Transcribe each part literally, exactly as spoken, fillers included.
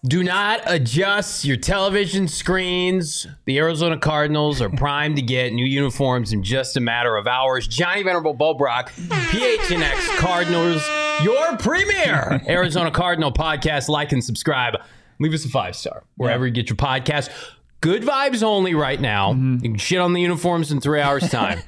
Do not adjust your television screens. The Arizona Cardinals are primed to get new uniforms in just a matter of hours. Johnny Venerable, Bo Brock, P H N X Cardinals, your premier Arizona Cardinal podcast. Like and subscribe. Leave us a five-star wherever yeah. you get your podcast. Good vibes only right now. Mm-hmm. You can shit on the uniforms in three hours' time.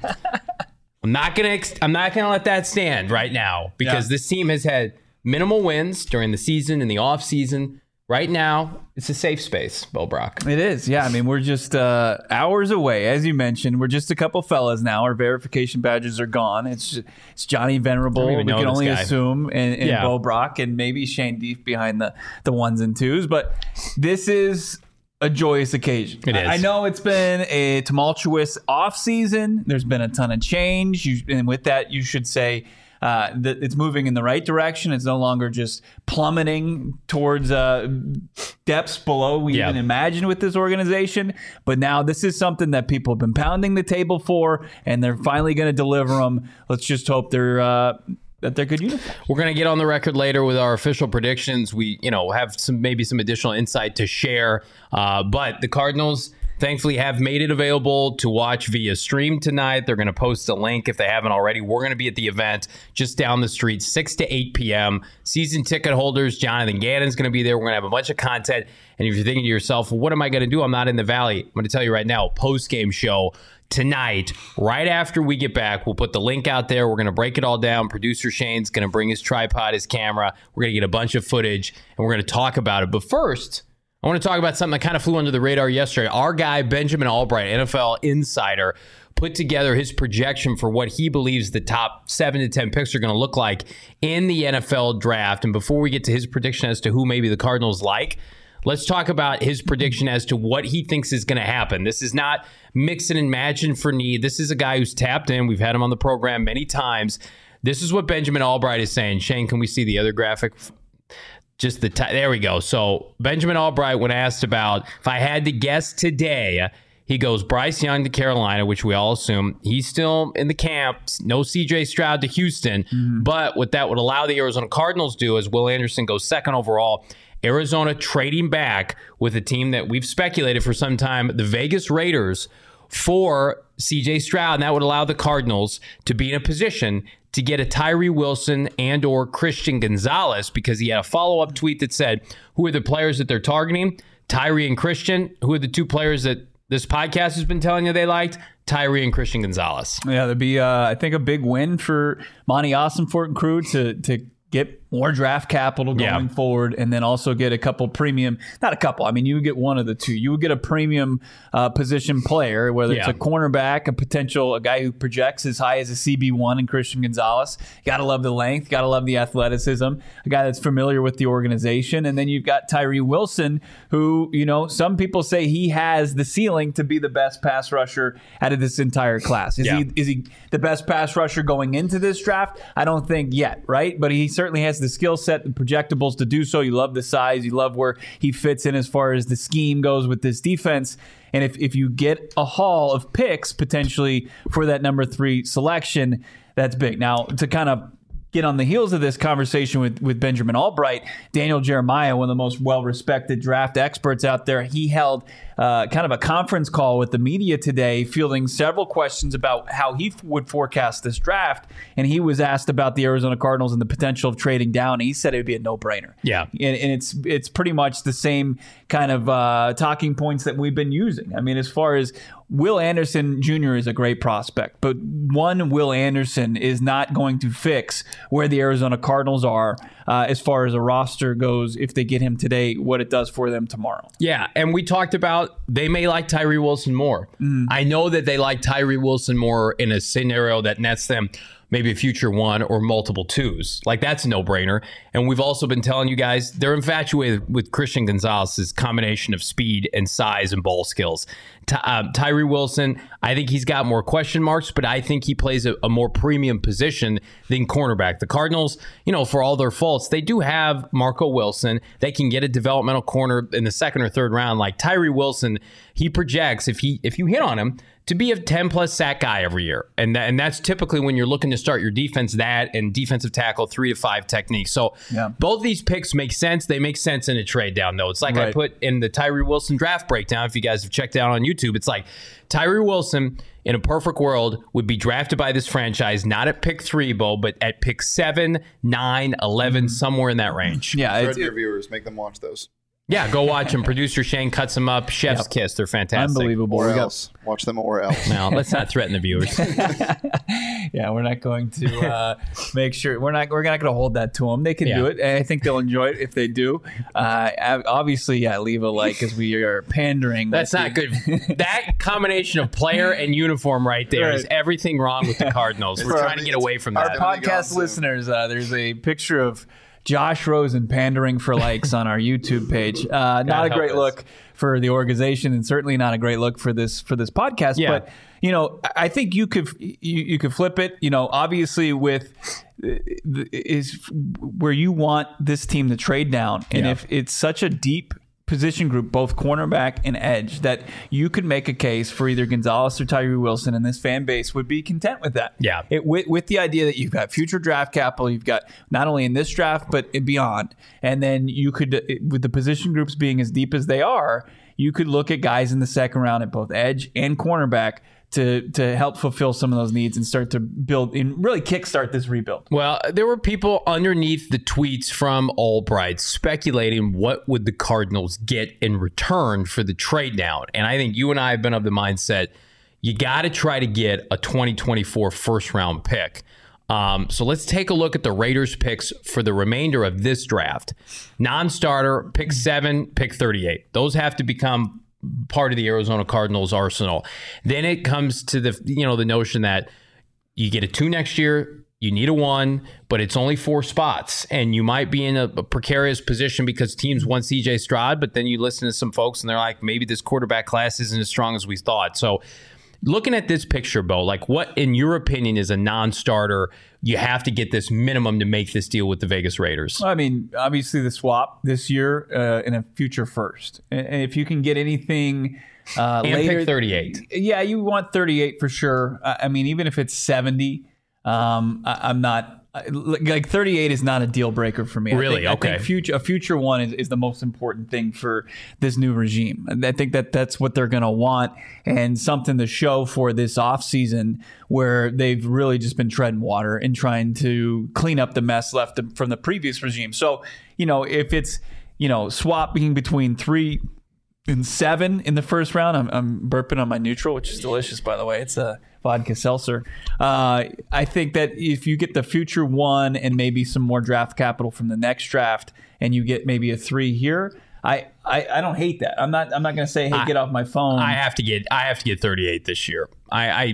I'm not gonna. Ex- I'm not gonna let that stand right now because yeah. this team has had minimal wins during the season and the off season. Right now, it's a safe space, Bo Brock. It is, yeah. I mean, we're just uh, hours away, as you mentioned. We're just a couple fellas now. Our verification badges are gone. It's just, it's Johnny Venerable. We can only guy. assume, and, and yeah. Bo Brock, and maybe Shane Deef behind the, the ones and twos. But this is a joyous occasion. It is. I know it's been a tumultuous offseason. There's been a ton of change. You, and with that, you should say Uh, that it's moving in the right direction. It's no longer just plummeting towards uh, depths below we yeah. even imagined with this organization. But now this is something that people have been pounding the table for, and they're finally going to deliver them. Let's just hope they're uh, that they're good uniforms. We're going to get on the record later with our official predictions. We, you know, have some maybe some additional insight to share. Uh, but the Cardinals, thankfully, have made it available to watch via stream tonight. They're going to post a link if they haven't already. We're going to be at the event just down the street, six to eight p.m. Season ticket holders, Jonathan Gannon's going to be there. We're going to have a bunch of content. And if you're thinking to yourself, well, what am I going to do? I'm not in the Valley. I'm going to tell you right now, post-game show tonight, right after we get back. We'll put the link out there. We're going to break it all down. Producer Shane's going to bring his tripod, his camera. We're going to get a bunch of footage, and we're going to talk about it. But first, I want to talk about something that kind of flew under the radar yesterday. Our guy, Benjamin Albright, N F L insider, put together his projection for what he believes the top seven to ten picks are going to look like in the N F L draft. And before we get to his prediction as to who maybe the Cardinals like, let's talk about his prediction as to what he thinks is going to happen. This is not mix and imagine for need. This is a guy who's tapped in. We've had him on the program many times. This is what Benjamin Albright is saying. Shane, can we see the other graphic? Just the t- there we go. So Benjamin Albright, when asked about if I had to guess today, he goes Bryce Young to Carolina, which we all assume he's still in the camp. No C J Stroud to Houston. Mm-hmm. But what that would allow the Arizona Cardinals to do is Will Anderson goes second overall. Arizona trading back with a team that we've speculated for some time, the Vegas Raiders, for C J Stroud. And that would allow the Cardinals to be in a position to get a Tyree Wilson and or Christian Gonzalez, because he had a follow-up tweet that said, who are the players that they're targeting? Tyree and Christian. Who are the two players that this podcast has been telling you they liked? Tyree and Christian Gonzalez. Yeah, there'd be, uh, I think, a big win for Monty Ossenfort and crew to to get more draft capital going yeah. forward, and then also get a couple premium, not a couple, I mean, you would get one of the two. You would get a premium uh, position player, whether yeah. it's a cornerback, a potential, a guy who projects as high as a C B one in Christian Gonzalez. Got to love the length, got to love the athleticism, a guy that's familiar with the organization. And then you've got Tyree Wilson, who, you know, some people say he has the ceiling to be the best pass rusher out of this entire class. Is, yeah. he, is he the best pass rusher going into this draft? I don't think yet, right? But he certainly has the skill set and projectables to do so. You love the size. You love where he fits in as far as the scheme goes with this defense. And if, if you get a haul of picks potentially for that number three selection, that's big. Now, to kind of get on the heels of this conversation with, with Benjamin Albright, Daniel Jeremiah, one of the most well-respected draft experts out there, he held uh, kind of a conference call with the media today, fielding several questions about how he f- would forecast this draft. And he was asked about the Arizona Cardinals and the potential of trading down. And he said it would be a no-brainer. Yeah. And, and it's it's pretty much the same kind of uh, talking points that we've been using. I mean, as far as Will Anderson Junior is a great prospect, but one Will Anderson is not going to fix where the Arizona Cardinals are uh, as far as a roster goes if they get him today, what it does for them tomorrow. Yeah, and we talked about they may like Tyree Wilson more. Mm. I know that they like Tyree Wilson more in a scenario that nets them maybe a future one or multiple twos. Like, that's a no-brainer. And we've also been telling you guys they're infatuated with Christian Gonzalez's combination of speed and size and ball skills. Ty- uh, Tyree Wilson, I think he's got more question marks, but I think he plays a, a more premium position than cornerback. The Cardinals, you know, for all their faults, they do have Marco Wilson. They can get a developmental corner in the second or third round. Like Tyree Wilson, he projects, if he if you hit on him, to be a ten plus sack guy every year. And that, and that's typically when you're looking to start your defense, that and defensive tackle three to five techniques. So yeah. both of these picks make sense. They make sense in a trade down though. It's like right. I put in the Tyree Wilson draft breakdown. If you guys have checked out on YouTube, it's like Tyree Wilson in a perfect world would be drafted by this franchise, not at pick three, Bo, but at pick seven, nine, eleven, somewhere in that range. Yeah. It's, your viewers, make them watch those. Yeah, go watch them. Producer Shane cuts them up. Chef's yep. kiss. They're fantastic. Unbelievable. Or else. Watch them or else. No, let's not threaten the viewers. Yeah, we're not going to uh, make sure. We're not We're not going to hold that to them. They can yeah. do it, and I think they'll enjoy it if they do. Uh, obviously, yeah, leave a like because we are pandering. That's not good. That combination of player and uniform right there right. is everything wrong with the Cardinals. We're trying to get away from that. Our podcast listeners, uh, there's a picture of Josh Rosen pandering for likes on our YouTube page. Uh, not a great us. look for the organization, and certainly not a great look for this for this podcast. Yeah. But you know, I think you could you, you could flip it. You know, obviously with is where you want this team to trade down, and yeah. if it's such a deep position group, both cornerback and edge, that you could make a case for either Gonzalez or Tyree Wilson, and this fan base would be content with that. Yeah. It, with, with the idea that you've got future draft capital, you've got not only in this draft, but beyond. And then you could, with the position groups being as deep as they are, you could look at guys in the second round at both edge and cornerback to to help fulfill some of those needs and start to build and really kickstart this rebuild. Well, there were people underneath the tweets from Albright speculating what would the Cardinals get in return for the trade down. And I think you and I have been of the mindset you got to try to get a twenty twenty-four first round pick. Um, so let's take a look at the Raiders picks for the remainder of this draft. Non-starter, pick seven, pick thirty-eight. Those have to become part of the Arizona Cardinals arsenal. Then it comes to the you know the notion that you get a two next year, you need a one, but it's only four spots, and you might be in a, a precarious position because teams want C J Stroud, but then you listen to some folks and they're like, maybe this quarterback class isn't as strong as we thought. So looking at this picture, Bo, like what, in your opinion, is a non-starter you have to get this minimum to make this deal with the Vegas Raiders? I mean, obviously the swap this year uh, and a future first. And if you can get anything uh, and later. pick thirty-eight. Yeah, you want thirty-eight for sure. I mean, even if it's seventy, um, I, I'm not. Like thirty-eight is not a deal breaker for me. Really? I think, okay. I think future, a future one is, is the most important thing for this new regime. And I think that that's what they're going to want, and something to show for this offseason where they've really just been treading water and trying to clean up the mess left from the previous regime. So, you know, if it's, you know, swapping between three and seven in the first round, I'm, I'm burping on my neutral, which is delicious, by the way. It's a vodka seltzer. Uh, I think that if you get the future one and maybe some more draft capital from the next draft, and you get maybe a three here, I, I, I don't hate that. I'm not I'm not going to say, hey, I, get off my phone. I have to get I have to get thirty-eight this year. I, I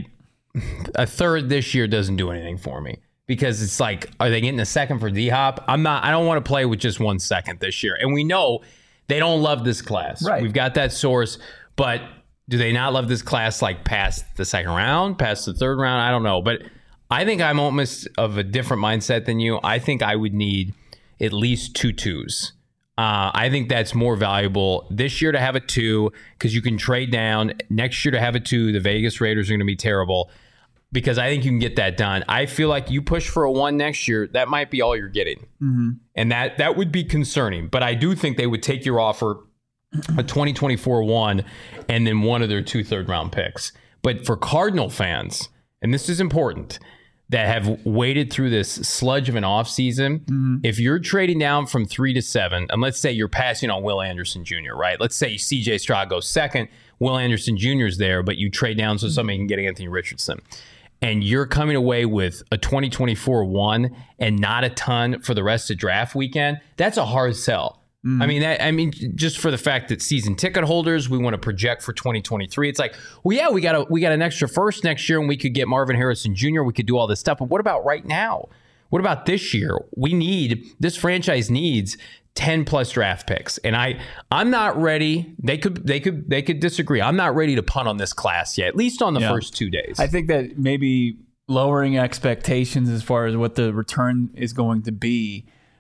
a third this year doesn't do anything for me because it's like, are they getting a second for D-Hop? I'm not. I don't want to play with just one second this year, and we know they don't love this class. Right. We've got that source, but do they not love this class like past the second round, past the third round? I don't know. But I think I'm almost of a different mindset than you. I think I would need at least two twos. Uh, I think that's more valuable this year to have a two because you can trade down. Next year to have a two, the Vegas Raiders are going to be terrible because I think you can get that done. I feel like you push for a one next year, that might be all you're getting. Mm-hmm. And that, that would be concerning. But I do think they would take your offer, a twenty twenty-four one, and then one of their two third round picks. But for Cardinal fans, and this is important, that have waited through this sludge of an offseason, mm-hmm. if you're trading down from three to seven, and let's say you're passing on Will Anderson Junior, right? Let's say C J Stroud goes second, Will Anderson Junior is there, but you trade down so somebody can get Anthony Richardson. And you're coming away with a twenty twenty-four one and not a ton for the rest of draft weekend, that's a hard sell. Mm. I mean, that, I mean, just for the fact that season ticket holders, we want to project for twenty twenty-three. It's like, well, yeah, we got a we got an extra first next year, and we could get Marvin Harrison Junior We could do all this stuff. But what about right now? What about this year? We need this franchise needs ten plus draft picks, and I I'm not ready. They could they could they could disagree. I'm not ready to punt on this class yet, at least on the yeah. first two days. I think that maybe lowering expectations as far as what the return is going to be.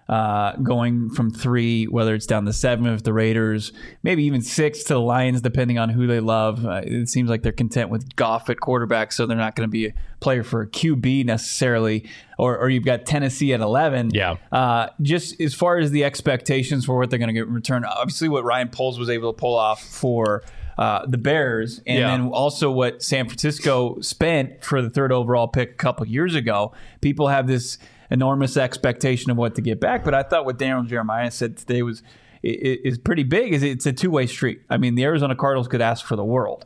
uh, going from three, whether it's down to seven if the Raiders, maybe even six to the Lions, depending on who they love. Uh, it seems like they're content with Goff at quarterback, so they're not going to be a player for a Q B necessarily. Or, or you've got Tennessee at eleven. Yeah. Uh, just as far as the expectations for what they're going to get in return, obviously what Ryan Poles was able to pull off for uh, the Bears, and yeah. then also what San Francisco spent for the third overall pick a couple years ago. People have this enormous expectation of what to get back, but I thought what Daniel Jeremiah said today was is pretty big. Is it's a two-way street. I mean, the Arizona Cardinals could ask for the world.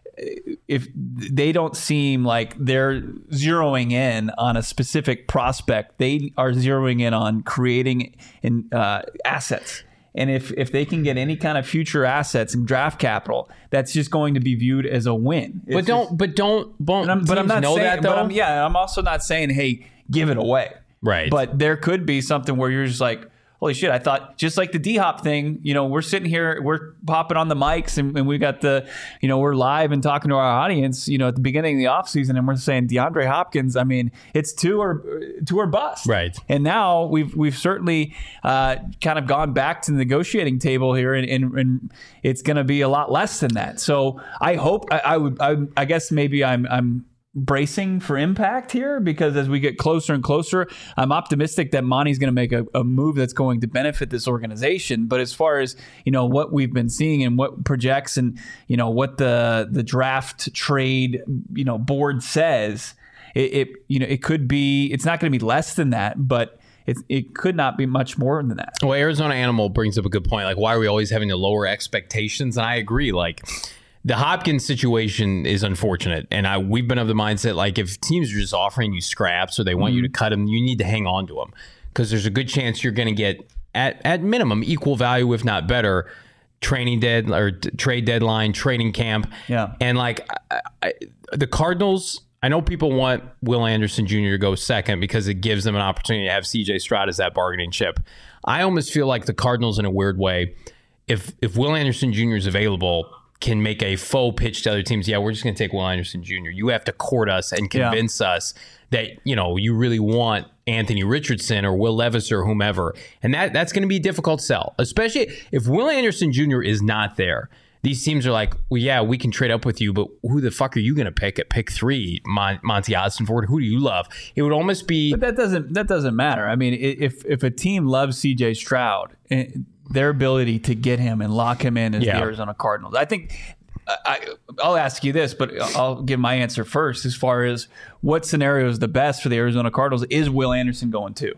If they don't seem like they're zeroing in on a specific prospect, they are zeroing in on creating in, uh, assets. And if, if they can get any kind of future assets and draft capital, that's just going to be viewed as a win. It's but don't, just, but don't, but I'm, but I'm not know saying, that though. But I'm, yeah, I'm also not saying, hey, give it away. Right. But there could be something where you're just like, holy shit, I thought just like the D-Hop thing, you know, we're sitting here, we're popping on the mics and, and we got the, you know, we're live and talking to our audience, you know, at the beginning of the offseason, and we're saying DeAndre Hopkins, I mean, it's two or two or bust. Right. And now we've we've certainly uh, kind of gone back to the negotiating table here, and, and, and it's going to be a lot less than that. So I hope, I, I would, I, I guess maybe I'm, I'm, bracing for impact here, because as we get closer and closer, I'm optimistic that Monty's going to make a, a move that's going to benefit this organization. But as far as, you know, what we've been seeing and what projects and, you know, what the the draft trade, you know, board says, it, it you know, it could be, it's not going to be less than that, but It, it could not be much more than that. Well, Arizona Animal brings up a good point. Like, why are we always having to lower expectations? And I agree. Like, the Hopkins situation is unfortunate, and I we've been of the mindset, like, if teams are just offering you scraps or they want mm-hmm. you to cut them, you need to hang on to them, because there's a good chance you're going to get, at at minimum, equal value, if not better, training dead or t- trade deadline, training camp. Yeah. And like I, I, the Cardinals, I know people want Will Anderson Junior to go second because it gives them an opportunity to have C J Stroud as that bargaining chip. I almost feel like the Cardinals, in a weird way, if if Will Anderson Junior is available, can make a faux pitch to other teams. Yeah, we're just going to take Will Anderson Junior You have to court us and convince yeah. us that, you know, you really want Anthony Richardson or Will Levis or whomever. And that that's going to be a difficult sell, especially if Will Anderson Junior is not there. These teams are like, well, yeah, we can trade up with you, but who the fuck are you going to pick at pick three? Mon- Monty Ossenford, who do you love? It would almost be... But that doesn't that doesn't matter. I mean, if if a team loves C J Stroud, their ability to get him and lock him in is yeah. the Arizona Cardinals. I think I, I'll ask you this, but I'll give my answer first. As far as what scenario is the best for the Arizona Cardinals, is Will Anderson going to?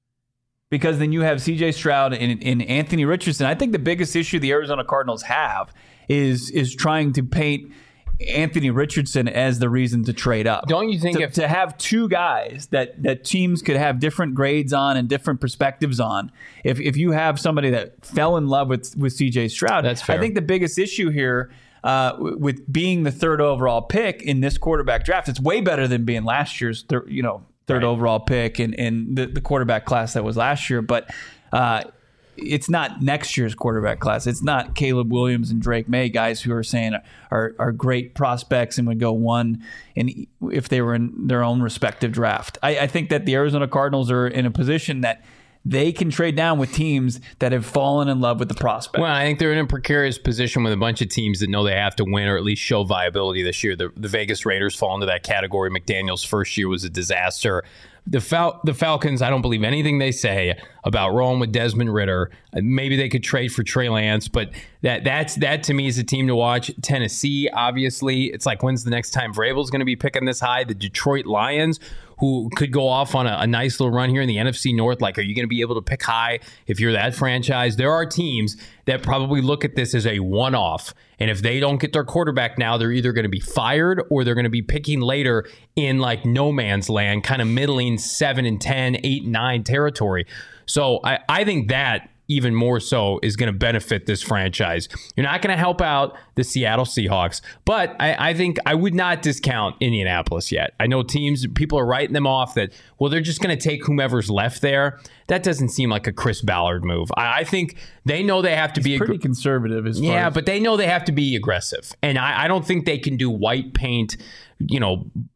Because then you have C J Stroud and, and Anthony Richardson. I think the biggest issue the Arizona Cardinals have is is trying to paint Anthony Richardson as the reason to trade up. Don't you think to, if to have two guys that, that teams could have different grades on and different perspectives on, if if you have somebody that fell in love with, with C J Stroud, that's fair. I think the biggest issue here uh, with being the third overall pick in this quarterback draft, it's way better than being last year's thir- you know third right. overall pick and, and the, the quarterback class that was last year. But uh, it's not next year's quarterback class. It's not Caleb Williams and Drake May, guys who are saying are are great prospects and would go one and if they were in their own respective draft. I, I think that the Arizona Cardinals are in a position that they can trade down with teams that have fallen in love with the prospect. Well, I think they're in a precarious position with a bunch of teams that know they have to win or at least show viability this year. The, the Vegas Raiders fall into that category. McDaniel's first year was a disaster. The Fal- the Falcons, I don't believe anything they say about rolling with Desmond Ridder. Maybe they could trade for Trey Lance, but that that's that to me is a team to watch. Tennessee, obviously, it's like, when's the next time Vrabel's going to be picking this high? The Detroit Lions, who could go off on a, a nice little run here in the N F C North. Like, are you going to be able to pick high if you're that franchise? There are teams that probably look at this as a one-off. And if they don't get their quarterback now, they're either going to be fired or they're going to be picking later in like no man's land, kind of middling seven and ten, eight and nine territory. So I, I think that even more so is going to benefit this franchise. You're not going to help out the Seattle Seahawks, but I, I think I would not discount Indianapolis yet. I know teams, people are writing them off that, well, they're just going to take whomever's left there. That doesn't seem like a Chris Ballard move. I, I think they know they have to He's be pretty ag- conservative. As far yeah, as- but they know they have to be aggressive, and I, I don't think they can do white paint, you know,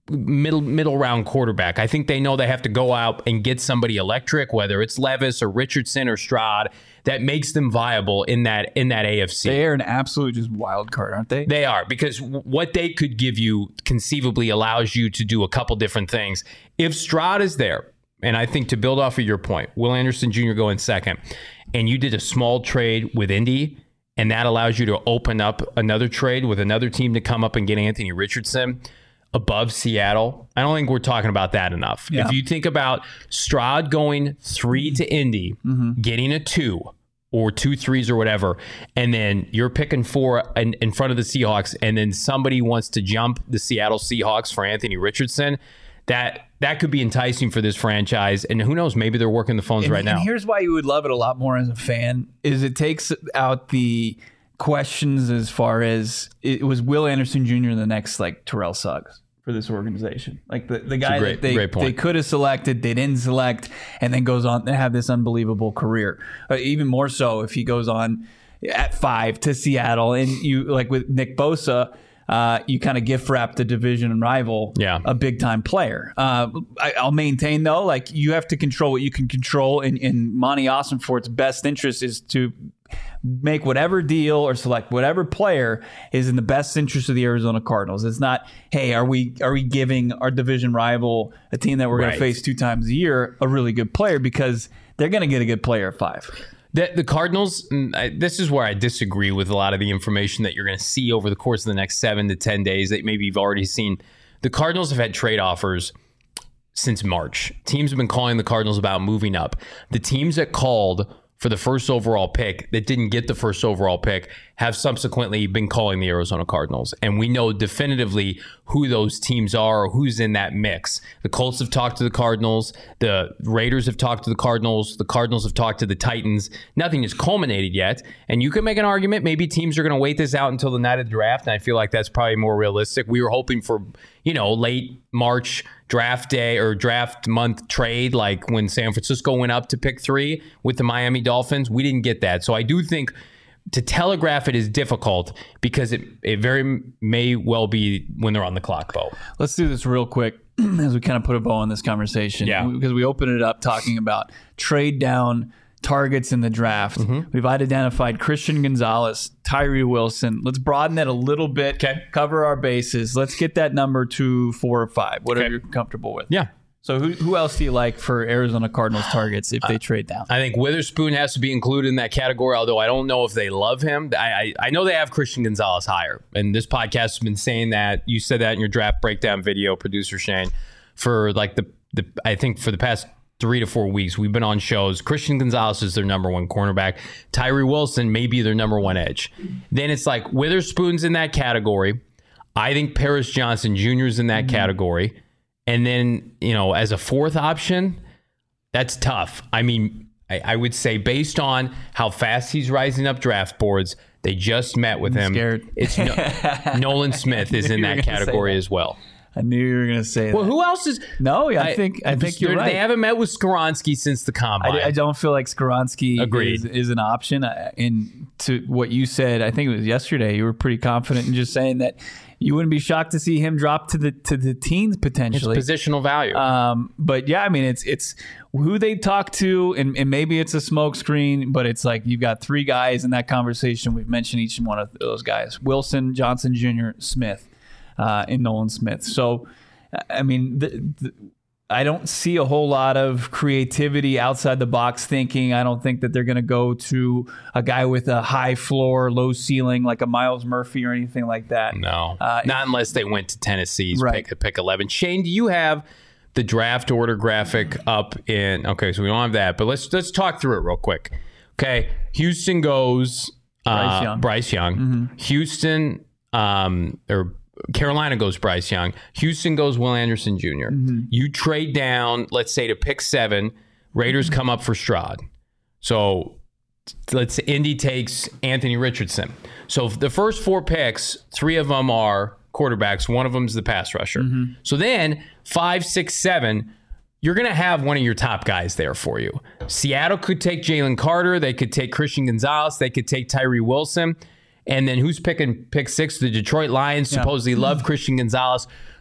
middle middle round quarterback. I think they know they have to go out and get somebody electric, whether it's Levis or Richardson or Stroud, that makes them viable in that in that A F C. They are an absolute just wild card, aren't they? They are, because what they could give you conceivably allows you to do a couple different things. If Stroud is there, and I think to build off of your point, Will Anderson Junior going second, and you did a small trade with Indy, and that allows you to open up another trade with another team to come up and get Anthony Richardson above Seattle. I don't think we're talking about that enough. Yeah. If you think about Stroud going three to Indy, mm-hmm. getting a two or two threes or whatever, and then you're picking four in, in front of the Seahawks, and then somebody wants to jump the Seattle Seahawks for Anthony Richardson, that that could be enticing for this franchise. And who knows, maybe they're working the phones and, right and now. Here's why you would love it a lot more as a fan, is it takes out the questions as far as it was Will Anderson Junior the next like Terrell Suggs for this organization. Like the, the guy great, that they, they could have selected, they didn't select, and then goes on to have this unbelievable career. Uh, even more so if he goes on at five to Seattle, and you like with Nick Bosa, uh, you kind of gift wrap the division rival, yeah. a big time player. Uh, I, I'll maintain though, like you have to control what you can control, and, and Monty Ossenfort's best interest is to make whatever deal or select whatever player is in the best interest of the Arizona Cardinals. It's not, hey, are we are we giving our division rival, a team that we're right. going to face two times a year, a really good player, because they're going to get a good player at five. The, the Cardinals, this is where I disagree with a lot of the information that you're going to see over the course of the next seven to ten days that maybe you've already seen. The Cardinals have had trade offers since March. Teams have been calling the Cardinals about moving up. The teams that called for the first overall pick that didn't get the first overall pick have subsequently been calling the Arizona Cardinals. And we know definitively who those teams are or who's in that mix. The Colts have talked to the Cardinals. The Raiders have talked to the Cardinals. The Cardinals have talked to the Titans. Nothing has culminated yet. And you can make an argument maybe teams are going to wait this out until the night of the draft. And I feel like that's probably more realistic. We were hoping for, you know, late March draft day or draft month trade, like when San Francisco went up to pick three with the Miami Dolphins. We didn't get that. So I do think to telegraph it is difficult because it, it very may well be when they're on the clock, Bo. Let's do this real quick as we kind of put a bow on this conversation. Yeah. Because we opened it up talking about trade down targets in the draft. Mm-hmm. We've identified Christian Gonzalez, Tyree Wilson. Let's broaden that a little bit. Okay. Cover our bases. Let's get that number to four or five, whatever okay. you're comfortable with. Yeah. So who who else do you like for Arizona Cardinals targets if they uh, trade down? I think Witherspoon has to be included in that category, although I don't know if they love him. I, I, I know they have Christian Gonzalez higher, and this podcast has been saying that. You said that in your draft breakdown video, producer Shane, for like the, the I think for the past three to four weeks, we've been on shows. Christian Gonzalez is their number one cornerback. Tyree Wilson may be their number one edge. Then it's like Witherspoon's in that category. I think Paris Johnson Junior is in that mm-hmm. category. And then, you know, as a fourth option, that's tough. I mean, I, I would say based on how fast he's rising up draft boards, they just met with I'm him. Scared. It's no, Nolan Smith is in that category that. as well. I knew you were going to say well, that. Well, who else is? No, I, I think I think you're right. They haven't met with Skoronski since the combine. I, I don't feel like Skoronski Agreed. is, is an option. And to what you said, I think it was yesterday, you were pretty confident in just saying that you wouldn't be shocked to see him drop to the to the teens potentially. It's positional value. Um, but yeah, I mean, it's it's who they talk to, and, and maybe it's a smokescreen, but it's like you've got three guys in that conversation. We've mentioned each one of those guys: Wilson, Johnson Junior, Smith, uh, and Nolan Smith. So, I mean, the, the, I don't see a whole lot of creativity outside the box thinking. I don't think that they're going to go to a guy with a high floor, low ceiling like a Miles Murphy or anything like that. No, uh, not unless they went to Tennessee's right. pick, pick eleven. Shane, do you have the draft order graphic up in? Okay, so we don't have that, but let's let's talk through it real quick. Okay, Houston goes uh, Bryce Young. Bryce Young. Mm-hmm. Houston um, or. Carolina goes Bryce Young. Houston goes Will Anderson Junior Mm-hmm. You trade down, let's say, to pick seven. Raiders mm-hmm. come up for Stroud. So let's say Indy takes Anthony Richardson. So the first four picks, three of them are quarterbacks. One of them is the pass rusher. Mm-hmm. So then five, six, seven, you're going to have one of your top guys there for you. Seattle could take Jalen Carter. They could take Christian Gonzalez. They could take Tyree Wilson. And then who's picking pick six? The Detroit Lions yeah. supposedly love Christian Gonzalez.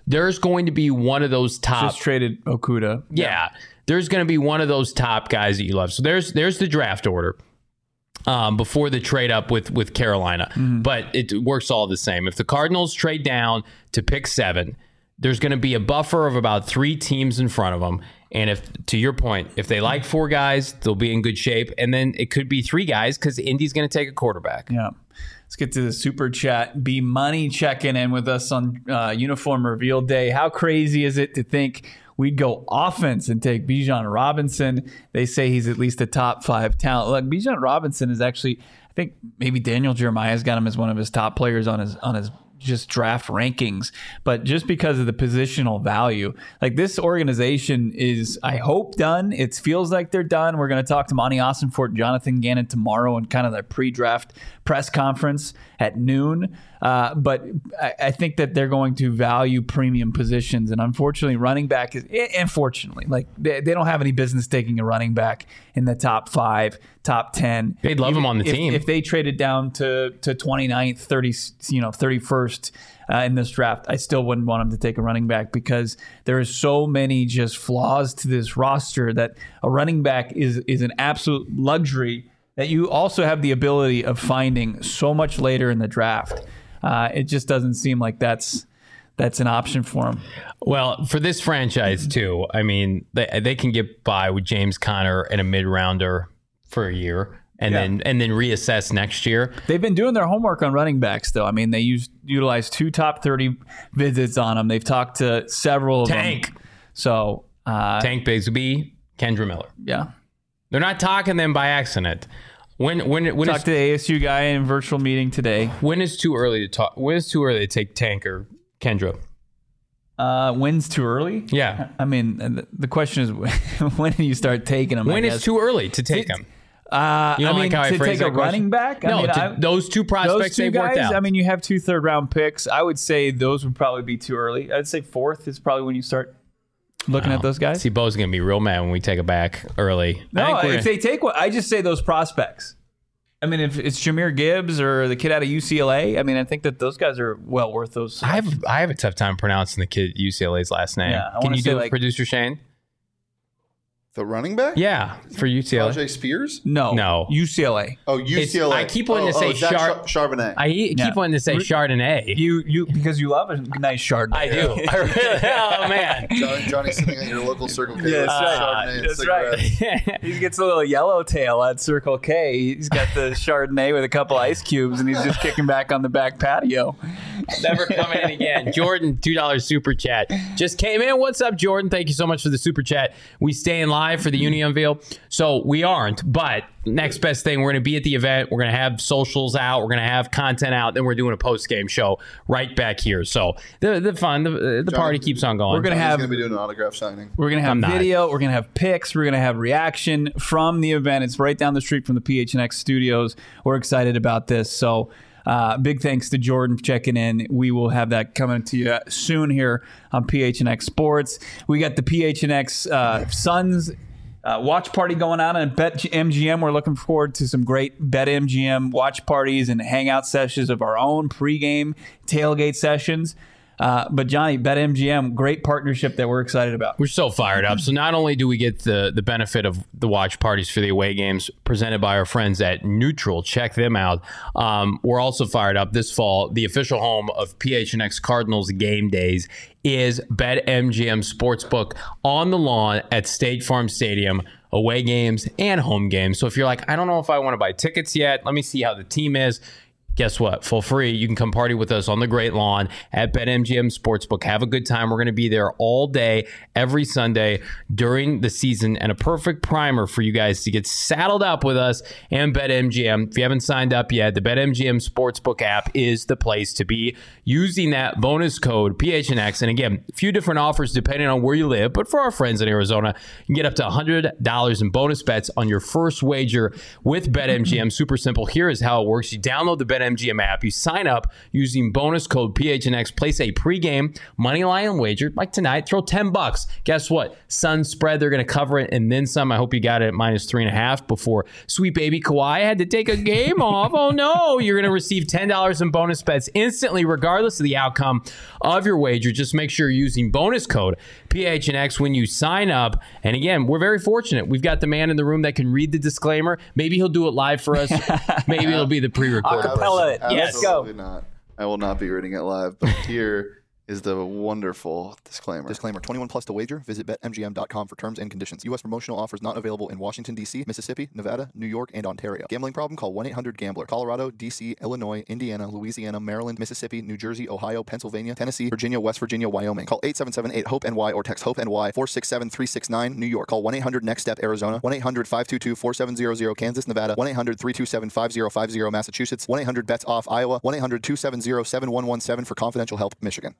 there's going to be one of those top. Just traded Okuda. Yeah, yeah. There's going to be one of those top guys that you love. So there's there's the draft order. Um, before the trade up with with Carolina, mm-hmm. but it works all the same. If the Cardinals trade down to pick seven, there's going to be a buffer of about three teams in front of them. And if, to your point, if they like four guys, they'll be in good shape. And then it could be three guys because Indy's going to take a quarterback. Yeah. Let's get to the super chat. B Money checking in with us on uh, uniform reveal day. How crazy is it to think we'd go offense and take Bijan Robinson? They say he's at least a top five talent. Look, Bijan Robinson is actually, I think maybe Daniel Jeremiah's got him as one of his top players on his on his just draft rankings, but just because of the positional value, like this organization is, I hope, done. It feels like they're done. We're going to talk to Monty Ossenfort and Jonathan Gannon tomorrow in kind of their pre-draft press conference at noon. Uh, but I, I think that they're going to value premium positions, and unfortunately, running back is unfortunately like they, they don't have any business taking a running back in the top five, top ten. They'd love Even him on the if, team if they traded down to to twenty-ninth, thirty, you know, thirty-first uh, in this draft. I still wouldn't want him to take a running back because there is so many just flaws to this roster that a running back is is an absolute luxury that you also have the ability of finding so much later in the draft. Uh, it just doesn't seem like that's that's an option for him. Well, for this franchise too, I mean, they they can get by with James Conner and a mid rounder for a year, and yeah. then and then reassess next year. They've been doing their homework on running backs, though. I mean, they used utilized two top thirty visits on them. They've talked to several of Tank. them. So uh, Tank Bigsby, Kendra Miller. Yeah, they're not talking them by accident. When when when talked is, to the A S U guy in a virtual meeting today. When is too early to talk? When is too early to take Tank or Kendra? Uh, when's too early? Yeah, I mean, the question is when do you start taking them? When is too early to take them? Uh, you I don't mean, like how I to phrase take that a running question? back. No, I mean, to, I, those two prospects those two they've guys, worked out. I mean, you have two third round picks. I would say those would probably be too early. I'd say fourth is probably when you start looking oh. at those guys. See, Bo's gonna be real mad when we take a back early. No, if they take what I just say those prospects. I mean, if it's Jahmyr Gibbs or the kid out of U C L A, I mean, I think that those guys are well worth those. I have I have a tough time pronouncing the kid at U C L A's last name. Yeah, Can you do it, like, producer Shane? The running back? Yeah, for U C L A. Rajay Spears? No, no, U C L A. Oh, U C L A. It's, I keep wanting oh, to say oh, Zach Char- Charbonnet. I keep Yeah. wanting to say Chardonnay. You you because you love a nice Chardonnay. I do. I really, oh man, John, Johnny's sitting at your local Circle K. Yeah, with that's Chardonnay right. and That's cigarettes. right. He gets a little yellowtail at Circle K. He's got the Chardonnay with a couple ice cubes, and he's just kicking back on the back patio. Never coming in again. Jordan, two dollars super chat. Just came in. What's up, Jordan? Thank you so much for the super chat. We staying live for the Uni Unveil. So we aren't, but next best thing, we're going to be at the event. We're going to have socials out. We're going to have content out. Then we're doing a post-game show right back here. So the the fun, the, the party keeps on going. We're going to have going to be doing an autograph signing. We're going to have I'm not. video. We're going to have pics. We're going to have reaction from the event. It's right down the street from the P H N X studios. We're excited about this. So uh, big thanks to Jordan for checking in. We will have that coming to you soon here on P H N X Sports. We got the P H N X uh, Suns Uh, watch party going on at BetMGM. We're looking forward to some great BetMGM watch parties and hangout sessions of our own pregame tailgate sessions. Uh, but Johnny, BetMGM, great partnership that we're excited about. We're so fired up. So not only do we get the, the benefit of the watch parties for the away games presented by our friends at Neutral, check them out. Um, we're also fired up this fall. The official home of P H N X Cardinals game days is BetMGM Sportsbook on the lawn at State Farm Stadium. Away games and home games. So if you're like, I don't know if I want to buy tickets yet, let me see how the team is. Guess what? For free, you can come party with us on the Great Lawn at BetMGM Sportsbook. Have a good time. We're going to be there all day, every Sunday during the season, and a perfect primer for you guys to get saddled up with us and BetMGM. If you haven't signed up yet, the BetMGM Sportsbook app is the place to be. Using that bonus code P H N X, and again, a few different offers depending on where you live, but for our friends in Arizona, you can get up to one hundred dollars in bonus bets on your first wager with BetMGM. Super simple. Here is how it works. You download the BetMGM BetMGM app. You sign up using bonus code P H N X, place a pregame money line wager like tonight, throw ten bucks. Guess what? Sun spread, they're going to cover it and then some. I hope you got it at minus three and a half before sweet baby Kawhi had to take a game off. Oh no, you're going to receive ten dollars in bonus bets instantly, regardless of the outcome of your wager. Just make sure you're using bonus code P H N X when you sign up. And again, we're very fortunate. We've got the man in the room that can read the disclaimer. Maybe he'll do it live for us. Maybe it'll be the pre-recorded. Acapella it. Yes, go. Absolutely not. I will not be reading it live, but here is the wonderful disclaimer. Disclaimer, twenty-one plus to wager. Visit bet M G M dot com for terms and conditions. U S promotional offers not available in Washington, D C, Mississippi, Nevada, New York, and Ontario. Gambling problem? Call one eight hundred gambler. Colorado, D C, Illinois, Indiana, Louisiana, Maryland, Mississippi, New Jersey, Ohio, Pennsylvania, Tennessee, Virginia, West Virginia, Wyoming. Call eight seven seven eight hope N Y or text HOPE-NY four six seven three six nine, New York. Call one eight hundred next step Arizona. one eight hundred five two two four seven zero zero, Kansas, Nevada. one eight hundred three two seven five zero five zero, Massachusetts. one eight hundred bets off, Iowa. one eight hundred two seven zero seven one one seven for confidential help, Michigan.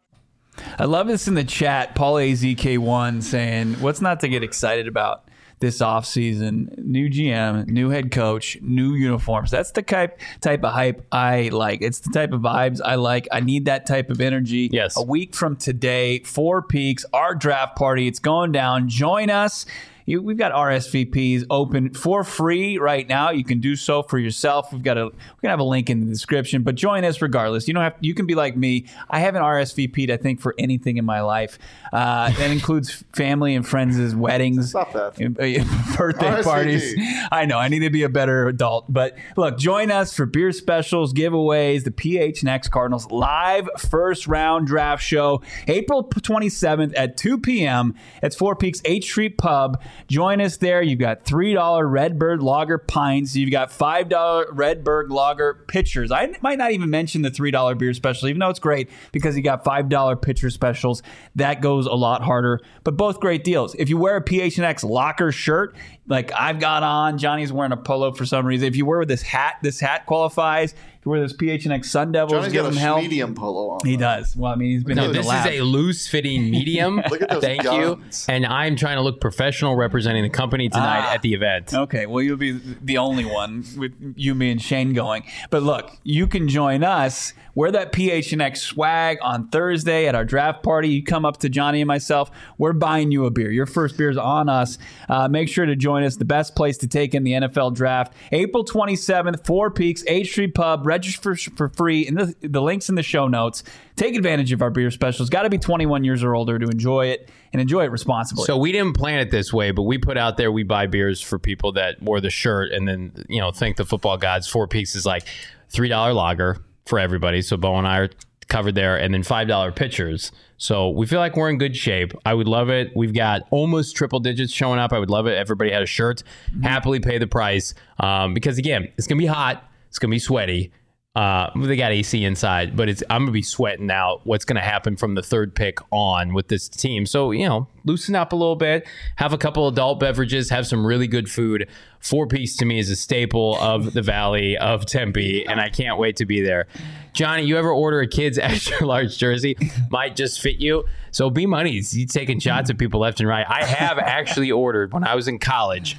I love this in the chat. Paul A Z K one saying, what's not to get excited about this offseason? New G M, new head coach, new uniforms. That's the type type of hype I like. It's the type of vibes I like. I need that type of energy. Yes. A week from today, Four Peaks, our draft party. It's going down. Join us. You, we've got R S V Ps open for free right now. You can do so for yourself. We've got a we're gonna have a link in the description, but join us regardless. You don't have you can be like me. I haven't R S V P'd I think for anything in my life. Uh, that includes family and friends' weddings, Stop that. birthday R S V P. parties. I know I need to be a better adult, but look, join us for beer specials, giveaways, the P H N X Cardinals live first round draft show, April twenty-seventh at two p.m. It's Four Peaks eighth Street Pub. Join us there. You've got three dollar Redbird Lager pints. You've got five dollar Redbird Lager pitchers. I might not even mention the three dollar beer special, even though it's great because you got five dollar pitcher specials. That goes a lot harder, but both great deals. If you wear a P H N X Locker shirt, like I've got on, Johnny's wearing a polo for some reason. If you wear this hat, this hat qualifies. If you wear this P H N X Sun Devils, Johnny's give got him a hell. medium polo on. He does. Well, I mean, he's been No, in the this lab. is a loose-fitting medium. Look at those Thank guns. you. And I'm trying to look professional representing the company tonight Ah. at the event. Okay, well, you'll be the only one with you, me, and Shane going. But look, you can join us. Wear that P H N X swag on Thursday at our draft party. You come up to Johnny and myself. We're buying you a beer. Your first beer is on us. Uh, make sure to join us. The best place to take in the N F L draft. April twenty-seventh, Four Peaks, eighth Street Pub. Register for, for free. And the, the link's in the show notes. Take advantage of our beer specials. Got to be twenty-one years or older to enjoy it, and enjoy it responsibly. So we didn't plan it this way, but we put out there we buy beers for people that wore the shirt and then, you know, thank the football gods. Four Peaks is like three dollar lager for everybody. So Bo and I are covered there, and then five dollar pitchers. So we feel like we're in good shape. I would love it. We've got almost triple digits showing up. I would love it. Everybody had a shirt. Mm-hmm. Happily pay the price um, because, again, it's going to be hot. It's going to be sweaty. Uh, they got A C inside, but it's I'm going to be sweating out what's going to happen from the third pick on with this team. So, you know, loosen up a little bit, have a couple adult beverages, have some really good food. Four Peaks to me is a staple of the Valley of Tempe, and I can't wait to be there. Johnny, you ever order a kid's extra large jersey? Might just fit you. So be monies. You taking shots at people left and right. I have actually ordered when I was in college.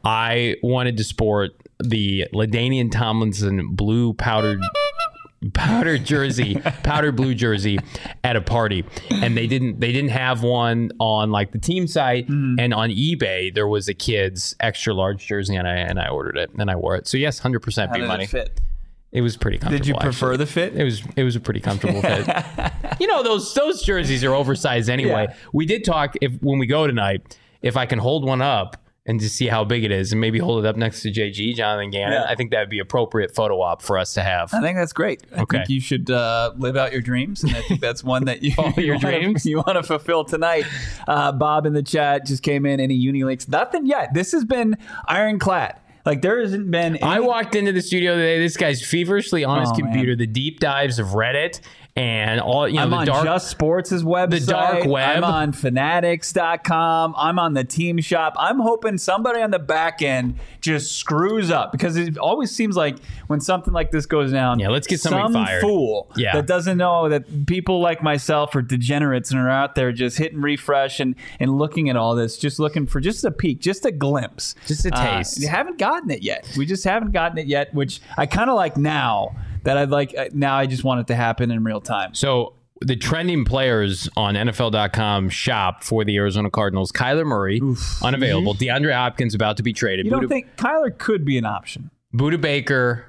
I wanted to sport the LaDainian Tomlinson blue powdered powdered jersey, powdered blue jersey at a party, and they didn't they didn't have one on like the team site, mm. and on eBay there was a kid's extra large jersey, and I and I ordered it and I wore it. So yes, one hundred percent be money. It fit? It was pretty comfortable. Did you prefer actually. the fit? It was it was a pretty comfortable fit. You know, those those jerseys are oversized anyway. Yeah. We did talk if when we go tonight, if I can hold one up and to see how big it is, and maybe hold it up next to J G, Jonathan Gannon. Yeah. I think that would be appropriate photo op for us to have. I think that's great. I Okay. think you should uh, live out your dreams, and I think that's one that you, Follow your you wanna, dreams? you want to fulfill tonight. Uh, Bob in the chat just came in. Any uni links? Nothing yet. This has been ironclad. Like there hasn't been. Any- I walked into the studio today. This guy's feverishly on his Oh, computer, man. the deep dives of Reddit and all. You know, I'm the on dark. Just Sports' website. the dark web. I'm on fanatics dot com. I'm on the team shop. I'm hoping somebody on the back end just screws up, because it always seems like when something like this goes down, Yeah, let's get somebody some fired. fool Yeah. that doesn't know that people like myself are degenerates and are out there just hitting refresh and, and looking at all this, just looking for just a peek, just a glimpse. Just a Uh, taste. you haven't gotten it yet. We just haven't gotten it yet, which I kind of like now that I'd like. Now I just want it to happen in real time. So the trending players on N F L dot com shop for the Arizona Cardinals: Kyler Murray, Oof. unavailable. Mm-hmm. DeAndre Hopkins about to be traded. You don't Buda, think Kyler could be an option? Buda Baker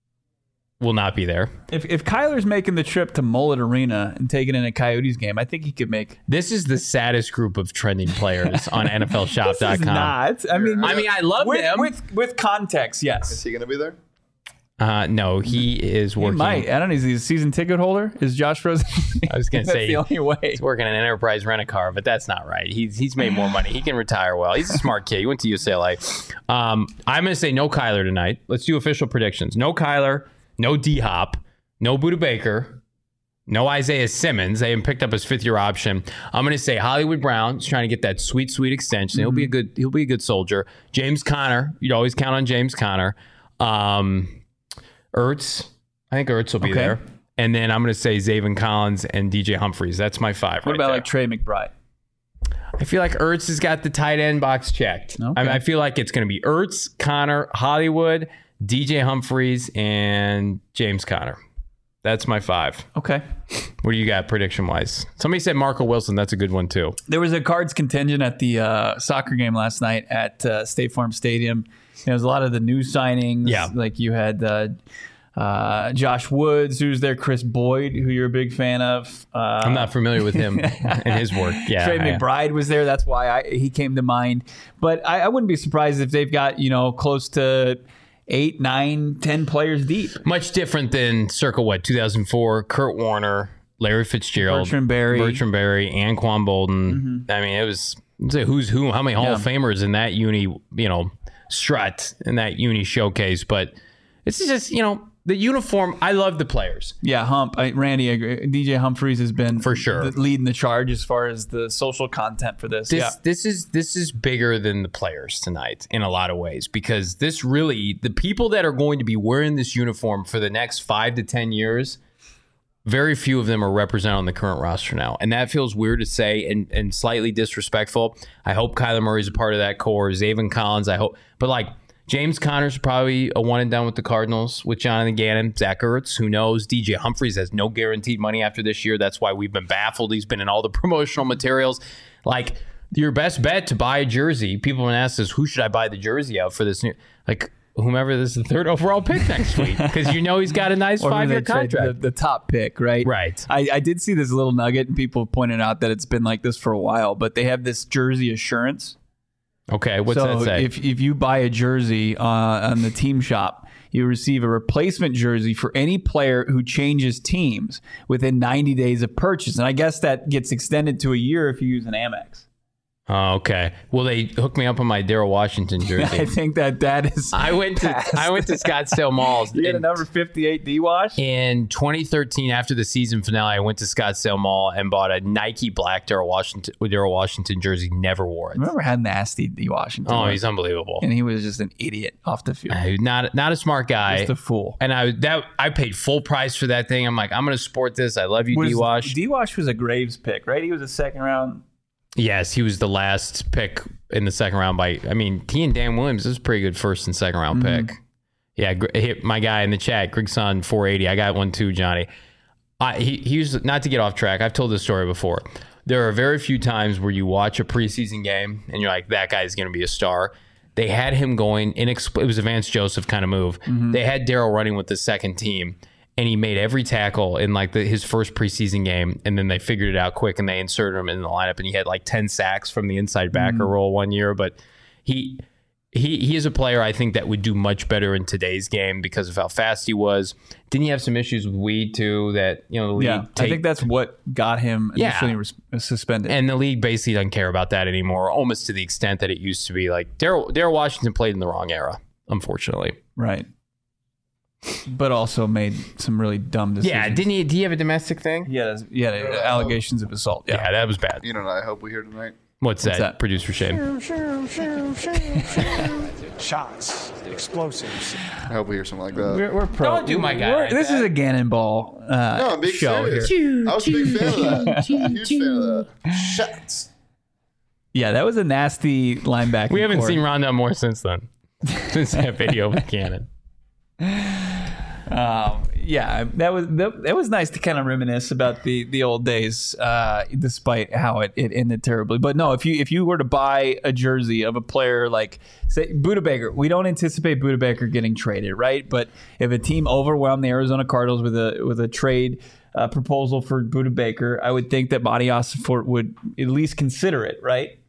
will not be there. If if Kyler's making the trip to Mullet Arena and taking in a Coyotes game, I think he could make. This is the saddest group of trending players on N F L shop dot com. This is not. I mean, I mean, I love with, them with with context. Yes. Is he going to be there? Uh, no, he is working. He might. I don't know. Is he a season ticket holder? Is Josh Rosen? I was going to say the only way. He's working in an enterprise rent-a-car, but that's not right. He's he's made more money. He can retire well. He's a smart kid. He went to U C L A. Um, I'm going to say no Kyler tonight. Let's do official predictions. No Kyler. No D-Hop. No Buda Baker. No Isaiah Simmons. They haven't picked up his fifth-year option. I'm going to say Hollywood Brown is trying to get that sweet, sweet extension. Mm-hmm. He'll be a good. He'll be a good soldier. James Conner. You'd always count on James Conner. Um, Ertz. I think Ertz will be okay. there. And then I'm going to say Zaven Collins and D J Humphries. That's my five. What right about there. like Trey McBride? I feel like Ertz has got the tight end box checked. Okay. I mean, I feel like it's going to be Ertz, Conner, Hollywood, D J Humphries, and James Conner. That's my five. Okay. What do you got prediction-wise? Somebody said Marco Wilson. That's a good one, too. There was a Cards contingent at the uh, soccer game last night at uh, State Farm Stadium. There was a lot of the new signings. Yeah. Like you had uh, uh, Josh Woods, who's there, Chris Boyd, who you're a big fan of. Uh, I'm not familiar with him and his work. Yeah. Trey McBride was there. That's why I, he came to mind. But I, I wouldn't be surprised if they've got, you know, close to eight, nine, ten players deep. Much different than circa, what, two thousand four, Kurt Warner, Larry Fitzgerald, Bertrand Berry, Bertrand Berry, Anquan Bolden. Mm-hmm. I mean, it was, it was a who's who. How many Hall yeah. of Famers in that uni, you know, strut in that uni showcase? But it's just, you know, the uniform. I love the players. Yeah, Hump. I, Randy, I agree. D J Humphries has been for sure the, leading the charge as far as the social content for this. This, yeah. this is this is bigger than the players tonight in a lot of ways, because this really, the people that are going to be wearing this uniform for the next five to ten years, very few of them are represented on the current roster now. And that feels weird to say and, and slightly disrespectful. I hope Kyler Murray's a part of that core. Zaven Collins, I hope. But like, James Conner's probably a one and done with the Cardinals with Jonathan Gannon. Zach Ertz, who knows? D J Humphries has no guaranteed money after this year. That's why we've been baffled. He's been in all the promotional materials. Like, your best bet to buy a jersey, people have been asked us, who should I buy the jersey of for this new, like, whomever this is the third overall pick next week, because you know he's got a nice five-year contract. The, the top pick, right? Right. I, I did see this little nugget, and people pointed out that it's been like this for a while, but they have this jersey assurance. Okay, what's so that say? If, if you buy a jersey uh, on the team shop, you receive a replacement jersey for any player who changes teams within ninety days of purchase. And I guess that gets extended to a year if you use an Amex. Oh, okay. Well, they hooked me up on my Daryl Washington jersey. I think that that is. I went to I went to Scottsdale Malls. You got a number fifty-eight D-Wash? In twenty thirteen, after the season finale, I went to Scottsdale Mall and bought a Nike black Daryl Washington Daryl Washington jersey. Never wore it. I remember how nasty D-Washington Oh, was. he's unbelievable. And he was just an idiot off the field. Uh, not not a smart guy. Just a fool. And I that I paid full price for that thing. I'm like, I'm going to support this. I love you, was, D-Wash. D-Wash was a Graves pick, right? He was a second round. Yes, he was the last pick in the second round by, I mean, he and Dan Williams, this is a pretty good first and second round mm-hmm. pick. Yeah, hit my guy in the chat, Grigson four eighty. I got one too, Johnny. I, he, he was, not to get off track, I've told this story before. There are very few times where you watch a preseason game and you're like, that guy's going to be a star. They had him going, inexpl- it was a Vance Joseph kind of move. Mm-hmm. They had Daryl running with the second team, and he made every tackle in like the, his first preseason game, and then they figured it out quick and they inserted him in the lineup, and he had like ten sacks from the inside backer mm-hmm. role one year. But he he he is a player I think that would do much better in today's game because of how fast he was. Didn't he have some issues with weed too? That you know the league. Yeah, take, I think that's what got him initially yeah. res- suspended. And the league basically doesn't care about that anymore, almost to the extent that it used to be. Like Daryl Daryl Washington played in the wrong era, unfortunately. Right. But also made some really dumb decisions. Yeah, didn't he? Did he have a domestic thing? Yeah, yeah, uh, allegations of assault. Yeah. yeah, that was bad. You know what I hope we hear tonight? What's, What's that, that? Producer Shane? Shots, explosives. I hope we hear something like that. We're, we're pro. Don't do my guy. Like this that. is a Gannon Ball uh, no, I'm big show serious. here. I was a big fan of that. Huge fan of that. Shots. Yeah, that was a nasty linebacker. We haven't court. seen Rondell Moore since then. Since that video with Gannon. Um, yeah, that was that, that was nice to kind of reminisce about the the old days, uh, despite how it, it ended terribly. But no, if you if you were to buy a jersey of a player like say Budda Baker, we don't anticipate Budda Baker getting traded, right? But if a team overwhelmed the Arizona Cardinals with a with a trade uh, proposal for Budda Baker, I would think that Monty Ossenfort would at least consider it, right?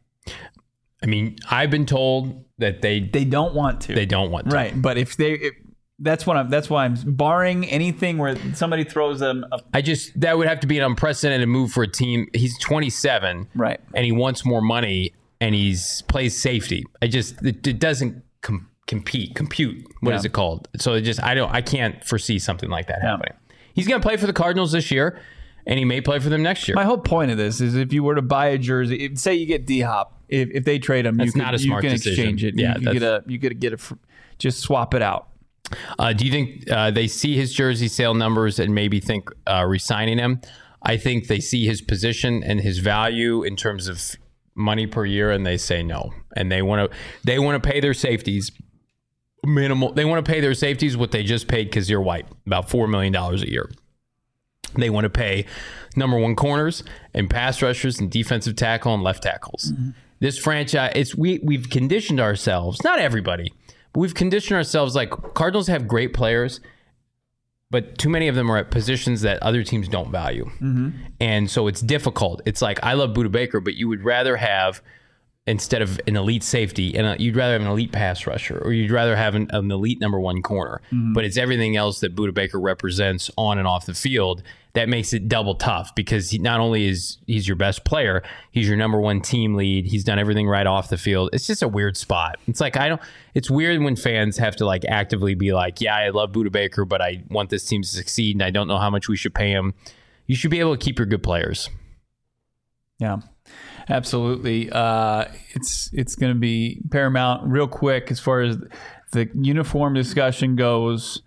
I mean, I've been told that they They don't want to. they don't want to. Right, but if they. If, That's what I'm. That's why I'm barring anything where somebody throws them. A, I just that would have to be an unprecedented move for a team. He's twenty-seven, right, and he wants more money, and he's plays safety. I just it, it doesn't com- compete, compute. What Yeah. is it called? So it just I don't I can't foresee something like that Yeah. happening. He's going to play for the Cardinals this year, and he may play for them next year. My whole point of this is if you were to buy a jersey, if, say you get D-Hop, if, if they trade him, That's you, could, not a smart you can decision. exchange it. Yeah, you, you that's- get a you get a get a fr- just swap it out. Uh, do you think uh, they see his jersey sale numbers and maybe think uh, re-signing him? I think they see his position and his value in terms of money per year, and they say no. And they want to they want to pay their safeties minimal. They want to pay their safeties what they just paid Kazir White, about four million dollars a year. They want to pay number one corners and pass rushers and defensive tackle and left tackles. Mm-hmm. This franchise, it's we we've conditioned ourselves, not everybody, but we've conditioned ourselves like Cardinals have great players, but too many of them are at positions that other teams don't value. Mm-hmm. And so it's difficult. It's like, I love Budda Baker, but you would rather have, instead of an elite safety, and you'd rather have an elite pass rusher, or you'd rather have an, an elite number one corner. Mm-hmm. But it's everything else that Budda Baker represents on and off the field that makes it double tough, because he not only is he's your best player, he's your number one team lead. He's done everything right off the field. It's just a weird spot. It's like, I don't, it's weird when fans have to like actively be like, yeah, I love Budda Baker, but I want this team to succeed and I don't know how much we should pay him. You should be able to keep your good players. Yeah, absolutely. Uh, it's it's going to be paramount. Real quick, as far as the uniform discussion goes,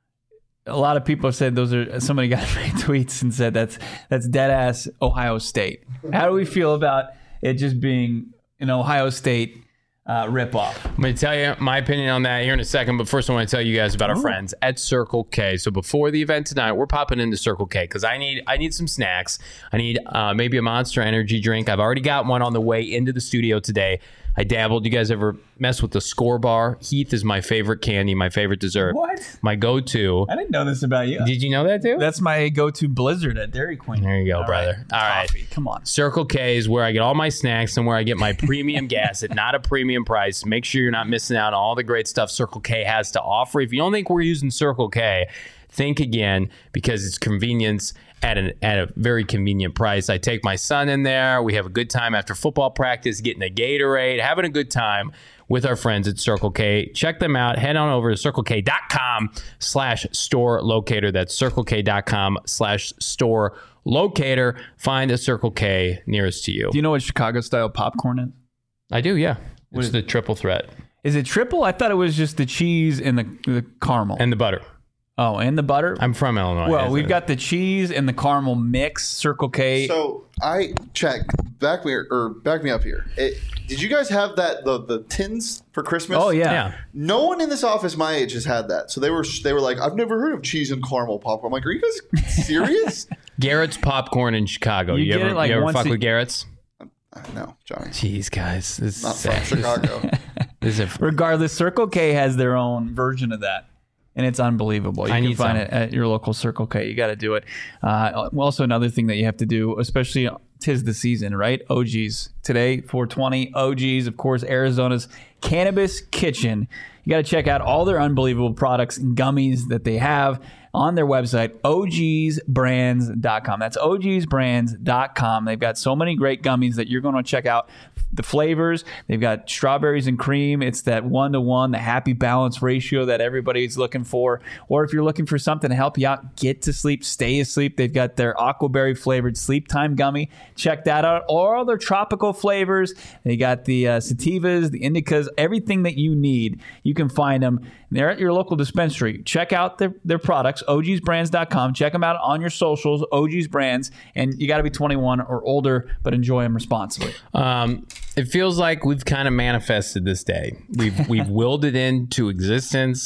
a lot of people have said those are. Somebody got my tweets and said that's that's dead ass Ohio State. How do we feel about it just being an Ohio State uh, ripoff? I'm going to tell you my opinion on that here in a second, but first I want to tell you guys about our Ooh. friends at Circle K. So before the event tonight, we're popping into Circle K because I need I need some snacks. I need uh, maybe a Monster Energy drink. I've already got one on the way into the studio today. I dabbled. You guys ever mess with the Score Bar? Heath is my favorite candy, my favorite dessert. What? My go-to. I didn't know this about you. Did you know that too? That's my go-to Blizzard at Dairy Queen. There you go, all brother. Right. All right. Coffee. Come on. Circle K is where I get all my snacks and where I get my premium gas at not a premium price. Make sure you're not missing out on all the great stuff Circle K has to offer. If you don't think we're using Circle K, think again, because it's convenience at an at a very convenient price. I take my son in there. We have a good time after football practice, getting a Gatorade, having a good time with our friends at Circle K. Check them out. Head on over to circlek.com slash store locator. That's circlek.com slash store locator. Find a Circle K nearest to you. Do you know what Chicago-style popcorn is? I do, yeah. What it's the triple threat. Is it triple? I thought it was just the cheese and the, the caramel. And the butter. Oh, and the butter? I'm from Illinois. Well, we've got the cheese and the caramel mix, Circle K. So I checked. Back me or back me up here. It, did you guys have that the the tins for Christmas? Oh yeah. yeah. No one in this office my age has had that. So they were they were like, I've never heard of cheese and caramel popcorn. I'm like, are you guys serious? Garrett's popcorn in Chicago. You You, get ever, it like you ever once fuck a- with Garrett's? Uh, no, Johnny. Jeez, guys. This is Not sad. from Chicago. This is a, Regardless, Circle K has their own version of that. And it's unbelievable. You I can need find some. it at your local Circle K. You got to do it. Uh, also, another thing that you have to do, especially 'tis the season, right? O G's. Today, four twenty. O G's, of course, Arizona's Cannabis Kitchen. You got to check out all their unbelievable products and gummies that they have on their website, O Gs brands dot com. That's O Gs brands dot com. They've got so many great gummies that you're going to check out. The flavors, they've got strawberries and cream. It's that one-to-one, the happy balance ratio that everybody's looking for. Or if you're looking for something to help you out, get to sleep, stay asleep, they've got their aquaberry flavored sleep time gummy. Check that out. Or all their tropical flavors. They got the uh, sativas, the indicas, everything that you need. You can find them. They're at your local dispensary. Check out their, their products, O Gs brands dot com. Check them out on your socials, O Gs Brands. And you got to be twenty-one or older, but enjoy them responsibly. Um, it feels like we've kind of manifested this day. We've we've willed it into existence.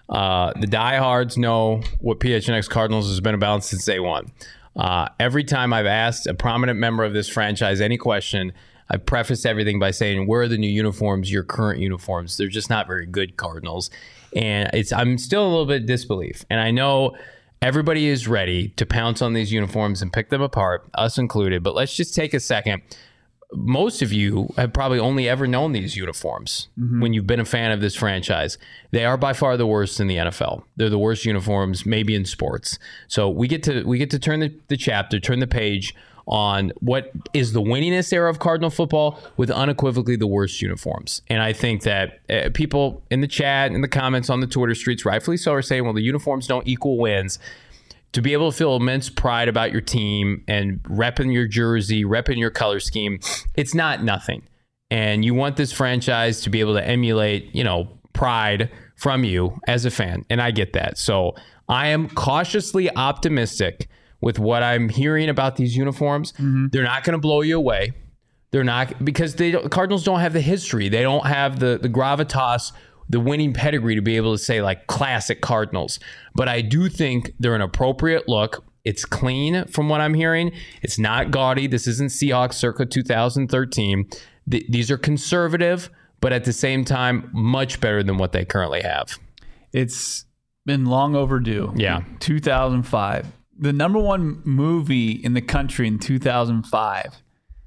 Uh, the diehards know what P H N X Cardinals has been about since day one. Uh, every time I've asked a prominent member of this franchise any question, I prefaced everything by saying, where are the new uniforms, your current uniforms? They're just not very good, Cardinals. And it's I'm still a little bit disbelief. And I know everybody is ready to pounce on these uniforms and pick them apart, us included. But let's just take a second. Most of you have probably only ever known these uniforms mm-hmm. when you've been a fan of this franchise. They are by far the worst in the N F L. They're the worst uniforms, maybe in sports. So we get to we get to turn the, the chapter, turn the page on what is the winningest era of Cardinal football with unequivocally the worst uniforms. And I think that uh, people in the chat, in the comments on the Twitter streets, rightfully so, are saying, well, the uniforms don't equal wins. To be able to feel immense pride about your team and repping your jersey, repping your color scheme, it's not nothing. And you want this franchise to be able to emulate, you know, pride from you as a fan. And I get that. So I am cautiously optimistic with what I'm hearing about these uniforms. Mm-hmm. They're not going to blow you away. They're not, because they don't, Cardinals don't have the history. They don't have the, the gravitas, the winning pedigree to be able to say like classic Cardinals. But I do think they're an appropriate look. It's clean from what I'm hearing. It's not gaudy. This isn't Seahawks circa two thousand thirteen. Th- these are conservative, but at the same time, much better than what they currently have. It's been long overdue. Yeah. two thousand five. The number one movie in the country in two thousand five.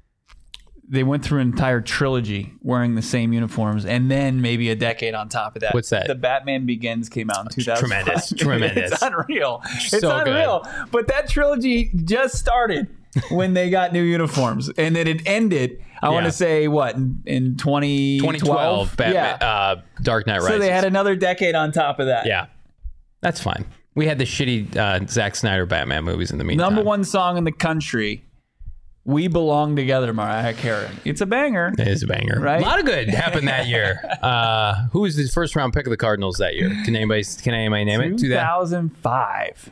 They went through an entire trilogy wearing the same uniforms, and then maybe a decade on top of that. What's that? The Batman Begins came out in two thousand five. Tremendous, tremendous. It's unreal. It's So unreal. good. But that trilogy just started when they got new uniforms, and then it ended. I Yeah. want to say what in, in twenty twelve, twenty twelve, Batman, yeah. uh, Dark Knight Rises. So they had another decade on top of that. Yeah, that's fine. We had the shitty uh, Zack Snyder Batman movies in the meantime. Number one song in the country. We Belong Together, Mariah Carey. It's a banger. It is a banger. Right? A lot of good happened that year. Uh, who was the first round pick of the Cardinals that year? Can anybody can anybody name it? two thousand five.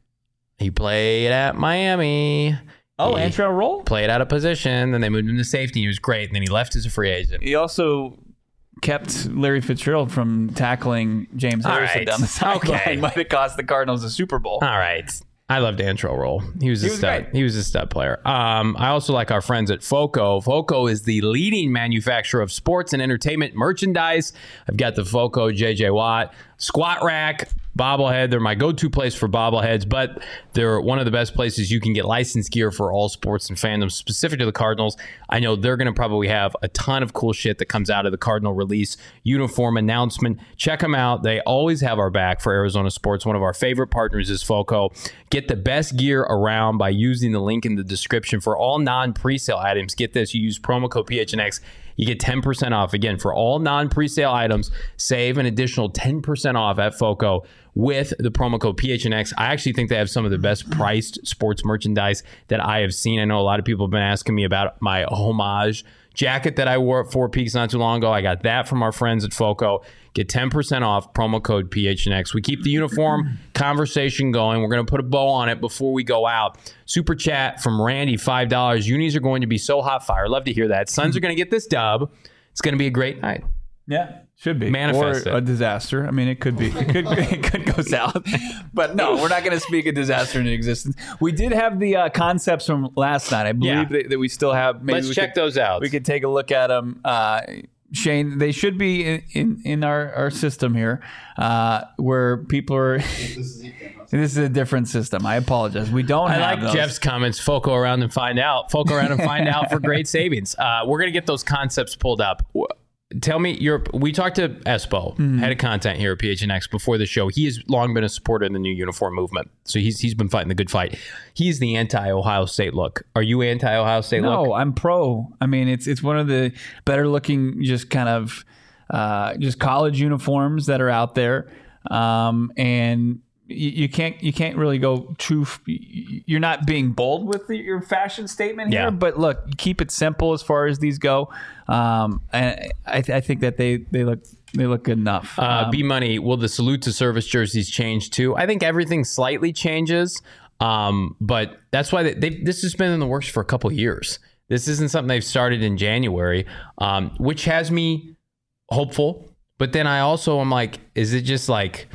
He played at Miami. Oh, he Antrell Roll? played out of position. Then they moved him to safety. He was great. And then he left as a free agent. He also kept Larry Fitzgerald from tackling James All Harrison right. down the sideline. Okay. Might have cost the Cardinals a Super Bowl. All right. I loved Antrell Roll. He was a He was stud. great. He was a stud player. Um, I also like our friends at Foco. Foco is the leading manufacturer of sports and entertainment merchandise. I've got the Foco J J Watt squat rack, bobblehead. They're my go-to place for bobbleheads, but they're one of the best places you can get licensed gear for all sports and fandoms specific to the Cardinals. I know they're going to probably have a ton of cool shit that comes out of the Cardinal release uniform announcement. Check them out. They always have our back for Arizona sports. One of our favorite partners is Foco. Get the best gear around by using the link in the description for all non-presale items. Get this, you use promo code P H N X. You get ten percent off. Again, for all non-presale items, save an additional ten percent off at Foco with the promo code P H N X. I actually think they have some of the best priced sports merchandise that I have seen. I know a lot of people have been asking me about my homage jacket that I wore at Four Peaks not too long ago. I got that from our friends at Foco. Get ten percent off, promo code P H N X. We keep the uniform conversation going. We're going to put a bow on it before we go out. Super chat from Randy, five dollars. Unis are going to be so hot fire. Love to hear that. Suns are going to get this dub. It's going to be a great night. Yeah, should be. Manifest or it. a disaster. I mean, it could be. It could, it could go south. But no, we're not going to speak a disaster into existence. We did have the uh, concepts from last night. I believe Yeah. that, that we still have. Maybe Let's we check could, those out. We could take a look at them. Uh, Shane, they should be in, in, in our, our system here uh, where people are. This is a different system. I apologize. We don't I have like those. Jeff's comments. Foco around and find out. Foco around and find out for great savings. Uh, we're going to get those concepts pulled up. W- Tell me, you're, we talked to Espo, Mm-hmm. head of content here at P H N X before the show. He has long been a supporter of the new uniform movement. So he's he's been fighting the good fight. He's the anti-Ohio State look. Are you anti-Ohio State look? No, I'm pro. I mean, it's it's one of the better looking, just kind of uh, just college uniforms that are out there, um, and you, you can't you can't really go too. You're not being bold with the, your fashion statement here, Yeah. but look, keep it simple as far as these go. Um, and I, th- I think that they they look they look good enough. Uh, Um, B Money, will the salute to service jerseys change too? I think everything slightly changes, um, but that's why they, they, this has been in the works for a couple of years. This isn't something they've started in January, um, which has me hopeful. But then I also am like, is it just like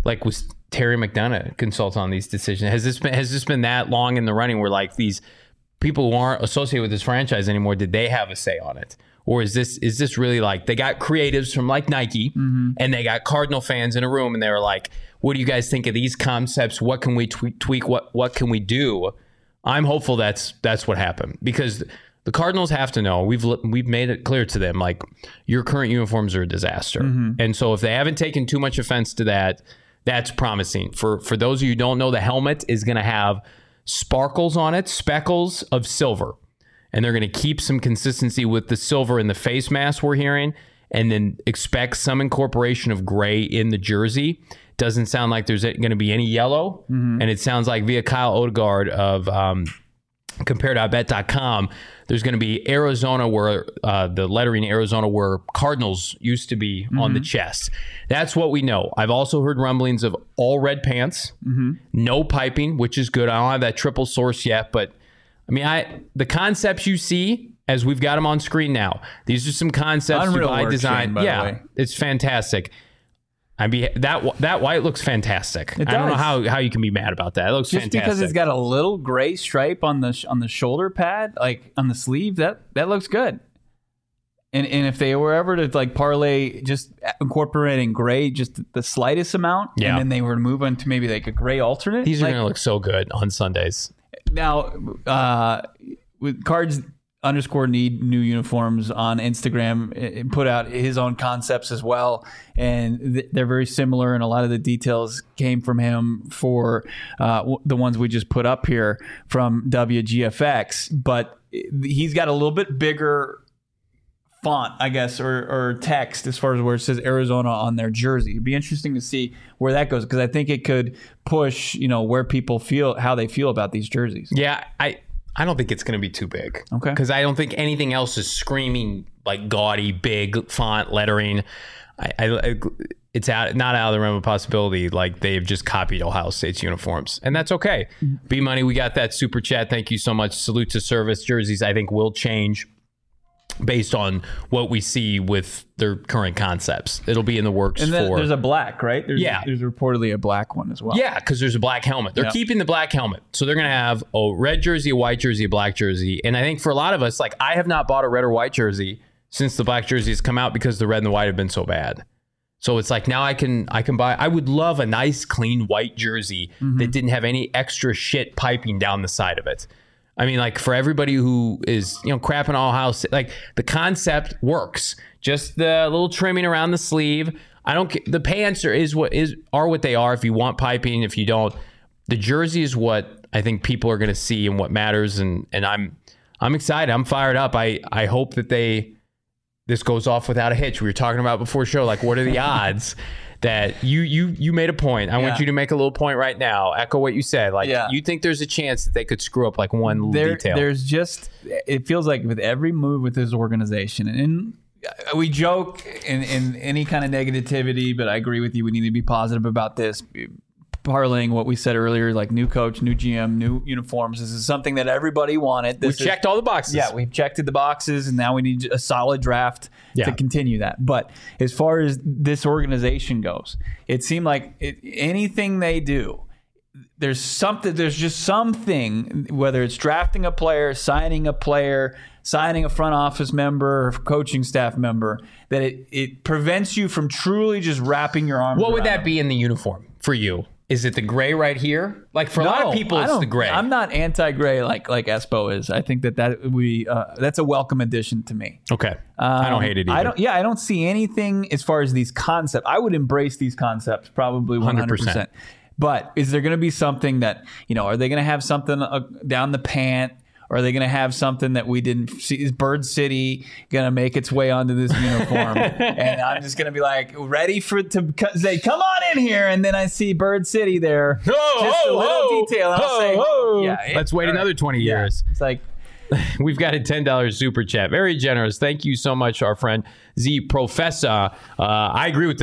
like was Terry McDonough consult on these decisions? Has this been has this been that long in the running where like these people who aren't associated with this franchise anymore, did they have a say on it? Or is this is this really like they got creatives from like Nike mm-hmm. and they got Cardinal fans in a room and they were like, what do you guys think of these concepts? What can we tweak? tweak what what can we do? I'm hopeful that's that's what happened, because the Cardinals have to know, we've we've made it clear to them, like, your current uniforms are a disaster. Mm-hmm. And so if they haven't taken too much offense to that, that's promising. For for those of you who don't know, the helmet is going to have sparkles on it, speckles of silver. And they're going to keep some consistency with the silver in the face mask we're hearing, and then expect some incorporation of gray in the jersey. Doesn't sound like there's going to be any yellow. Mm-hmm. And it sounds like via Kyle Odegaard of um, compare dot bet dot com, there's going to be Arizona, where uh, the lettering Arizona, where Cardinals used to be mm-hmm. on the chest. That's what we know. I've also heard rumblings of all red pants, mm-hmm. no piping, which is good. I don't have that triple source yet, but I mean, I the concepts you see as we've got them on screen now, these are some concepts Unreal by work, design. Shane, by yeah, the way. It's fantastic. I mean, that that white looks fantastic. It I don't know does. how, how you can be mad about that. It looks Just fantastic. because it's got a little gray stripe on the sh- on the shoulder pad, like on the sleeve, that that looks good. And and if they were ever to like parlay just incorporating gray, just the slightest amount, Yeah. and then they were to move on to maybe like a gray alternate, These are like, going to look so good on Sundays. Now, uh, with Cards underscore need new uniforms on Instagram, it put out his own concepts as well, and th- they're very similar, and a lot of the details came from him for uh, w- the ones we just put up here from W G F X, but he's got a little bit bigger font, I guess, or, or text as far as where it says Arizona on their jersey. It'd be interesting to see where that goes, because I think it could push, you know, where people feel, how they feel about these jerseys. Yeah, I I don't think it's going to be too big. Okay. Because I don't think anything else is screaming like gaudy, big font lettering. I, I it's out not out of the realm of possibility. Like they've just copied Ohio State's uniforms, and that's okay. B Money, we got that super chat. Thank you so much. Salute to service. Jerseys, I think, will change based on what we see with their current concepts. It'll be in the works And then for. there's a black, right? There's, Yeah. There's reportedly a black one as well. Yeah, because there's a black helmet. They're Yeah. keeping the black helmet. So they're going to have a red jersey, a white jersey, a black jersey. And I think for a lot of us, like, I have not bought a red or white jersey since the black jersey has come out, because the red and the white have been so bad. So it's like now I can I can buy. I would love a nice, clean white jersey mm-hmm. that didn't have any extra shit piping down the side of it. I mean, like, for everybody who is, you know, crapping all house, like, the concept works. Just the little trimming around the sleeve. I don't the pants are is what is are what they are. If you want piping, if you don't, the jersey is what I think people are going to see and what matters. And and I'm I'm excited. I'm fired up. I I hope that they this goes off without a hitch. We were talking about before show, like, what are the odds? That you you you made a point. I Yeah. want you to make a little point right now. Echo what you said. Like, Yeah. you think there's a chance that they could screw up like one little There, detail. there's just, it feels like with every move with this organization, and we joke in, in any kind of negativity, but I agree with you. We need to be positive about this. Parlaying what we said earlier, like new coach, new G M, new uniforms. This is something that everybody wanted. we This is- checked all the boxes. Yeah, we've checked the boxes, and now we need a solid draft Yeah. to continue that. But as far as this organization goes, it seemed like it, anything they do, there's something, there's just something, whether it's drafting a player, signing a player, signing a front office member, or coaching staff member, that it, it prevents you from truly just wrapping your arms What would around that be in the uniform for you? Is it the gray right here? Like, for a lot of people, I it's don't- the gray. I'm not anti-gray like like Espo is. I think that that we uh, that's a welcome addition to me. okay. I don't Um, hate it either. I don't. Yeah, I don't see anything as far as these concepts. I would embrace these concepts probably one hundred percent. But is there going to be something that, you know? Are they going to have something uh, down the pant? Or are they going to have something that we didn't see? Is Bird City going to make its way onto this uniform? And I'm just going to be like, ready for it to co- say, come on in here. And then I see Bird City there. Oh, just oh, a little oh, detail. And I'll oh, say, oh. yeah, it- Let's wait all right. another twenty Yeah. years. It's like, We've got a ten dollars super chat. Very generous. Thank you so much, our friend Z Professor. Uh, I agree with this.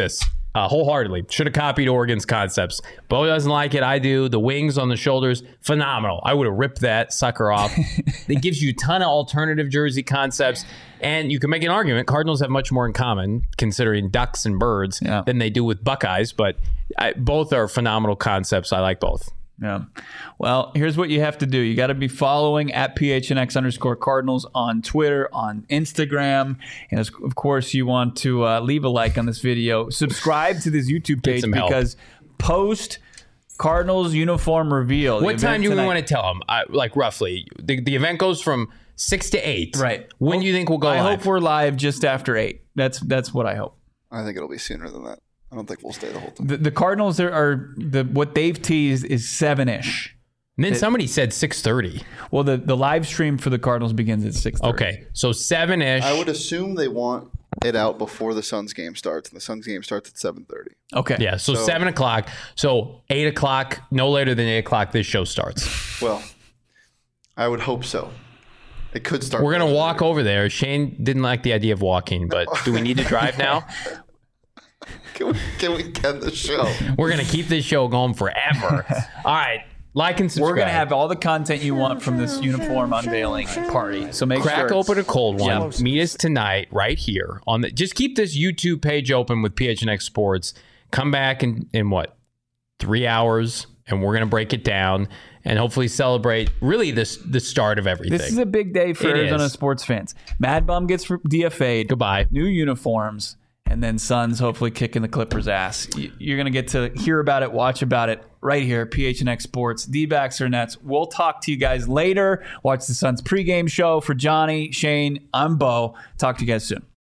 Uh, wholeheartedly. Should have copied Oregon's concepts. Bo doesn't like it. I do. The wings on the shoulders, phenomenal. I would have ripped that sucker off. It gives you a ton of alternative jersey concepts. And you can make an argument. Cardinals have much more in common, considering ducks and birds, yeah. than they do with Buckeyes. But I, both are phenomenal concepts. I like both. Yeah. Well, here's what you have to do. You got to be following at P H N X underscore Cardinals on Twitter, on Instagram. And of course, you want to uh, leave a like on this video. Subscribe to this YouTube page because post Cardinals uniform reveal. What time do we want to tell them? I, like roughly. The, the event goes from six to eight. Right. When well, do you think we'll go I live? hope we're live just after eight. That's that's what I hope. I think it'll be sooner than that. I don't think we'll stay the whole time. The, the Cardinals are, are the what they've teased is seven-ish. And then it, somebody said six thirty. Well, the, the live stream for the Cardinals begins at six thirty. Okay, so seven-ish. I would assume they want it out before the Suns game starts, and the Suns game starts at seven thirty. Okay. Yeah, so, so seven o'clock. So eight o'clock, no later than eight o'clock, this show starts. Well, I would hope so. It could start. We're going to walk over there. Shane didn't like the idea of walking, but do we need to drive now? Can we, can we get the show? We're going to keep this show going forever. All right. Like and subscribe. We're going to have all the content you want from this uniform unveiling party. So make Crack sure. open a cold one. Yeah. Meet us tonight right here. on the. Just keep this YouTube page open with P H N X Sports. Come back in, in what? Three hours, and we're going to break it down and hopefully celebrate really this the start of everything. This is a big day for it Arizona is. sports fans. Mad Bum gets D F A'd. Goodbye. New uniforms. And then Suns hopefully kicking the Clippers' ass. You're going to get to hear about it, watch about it right here, P H N X Sports, D-backs or Nets. We'll talk to you guys later. Watch the Suns pregame show. For Johnny, Shane, I'm Bo. Talk to you guys soon.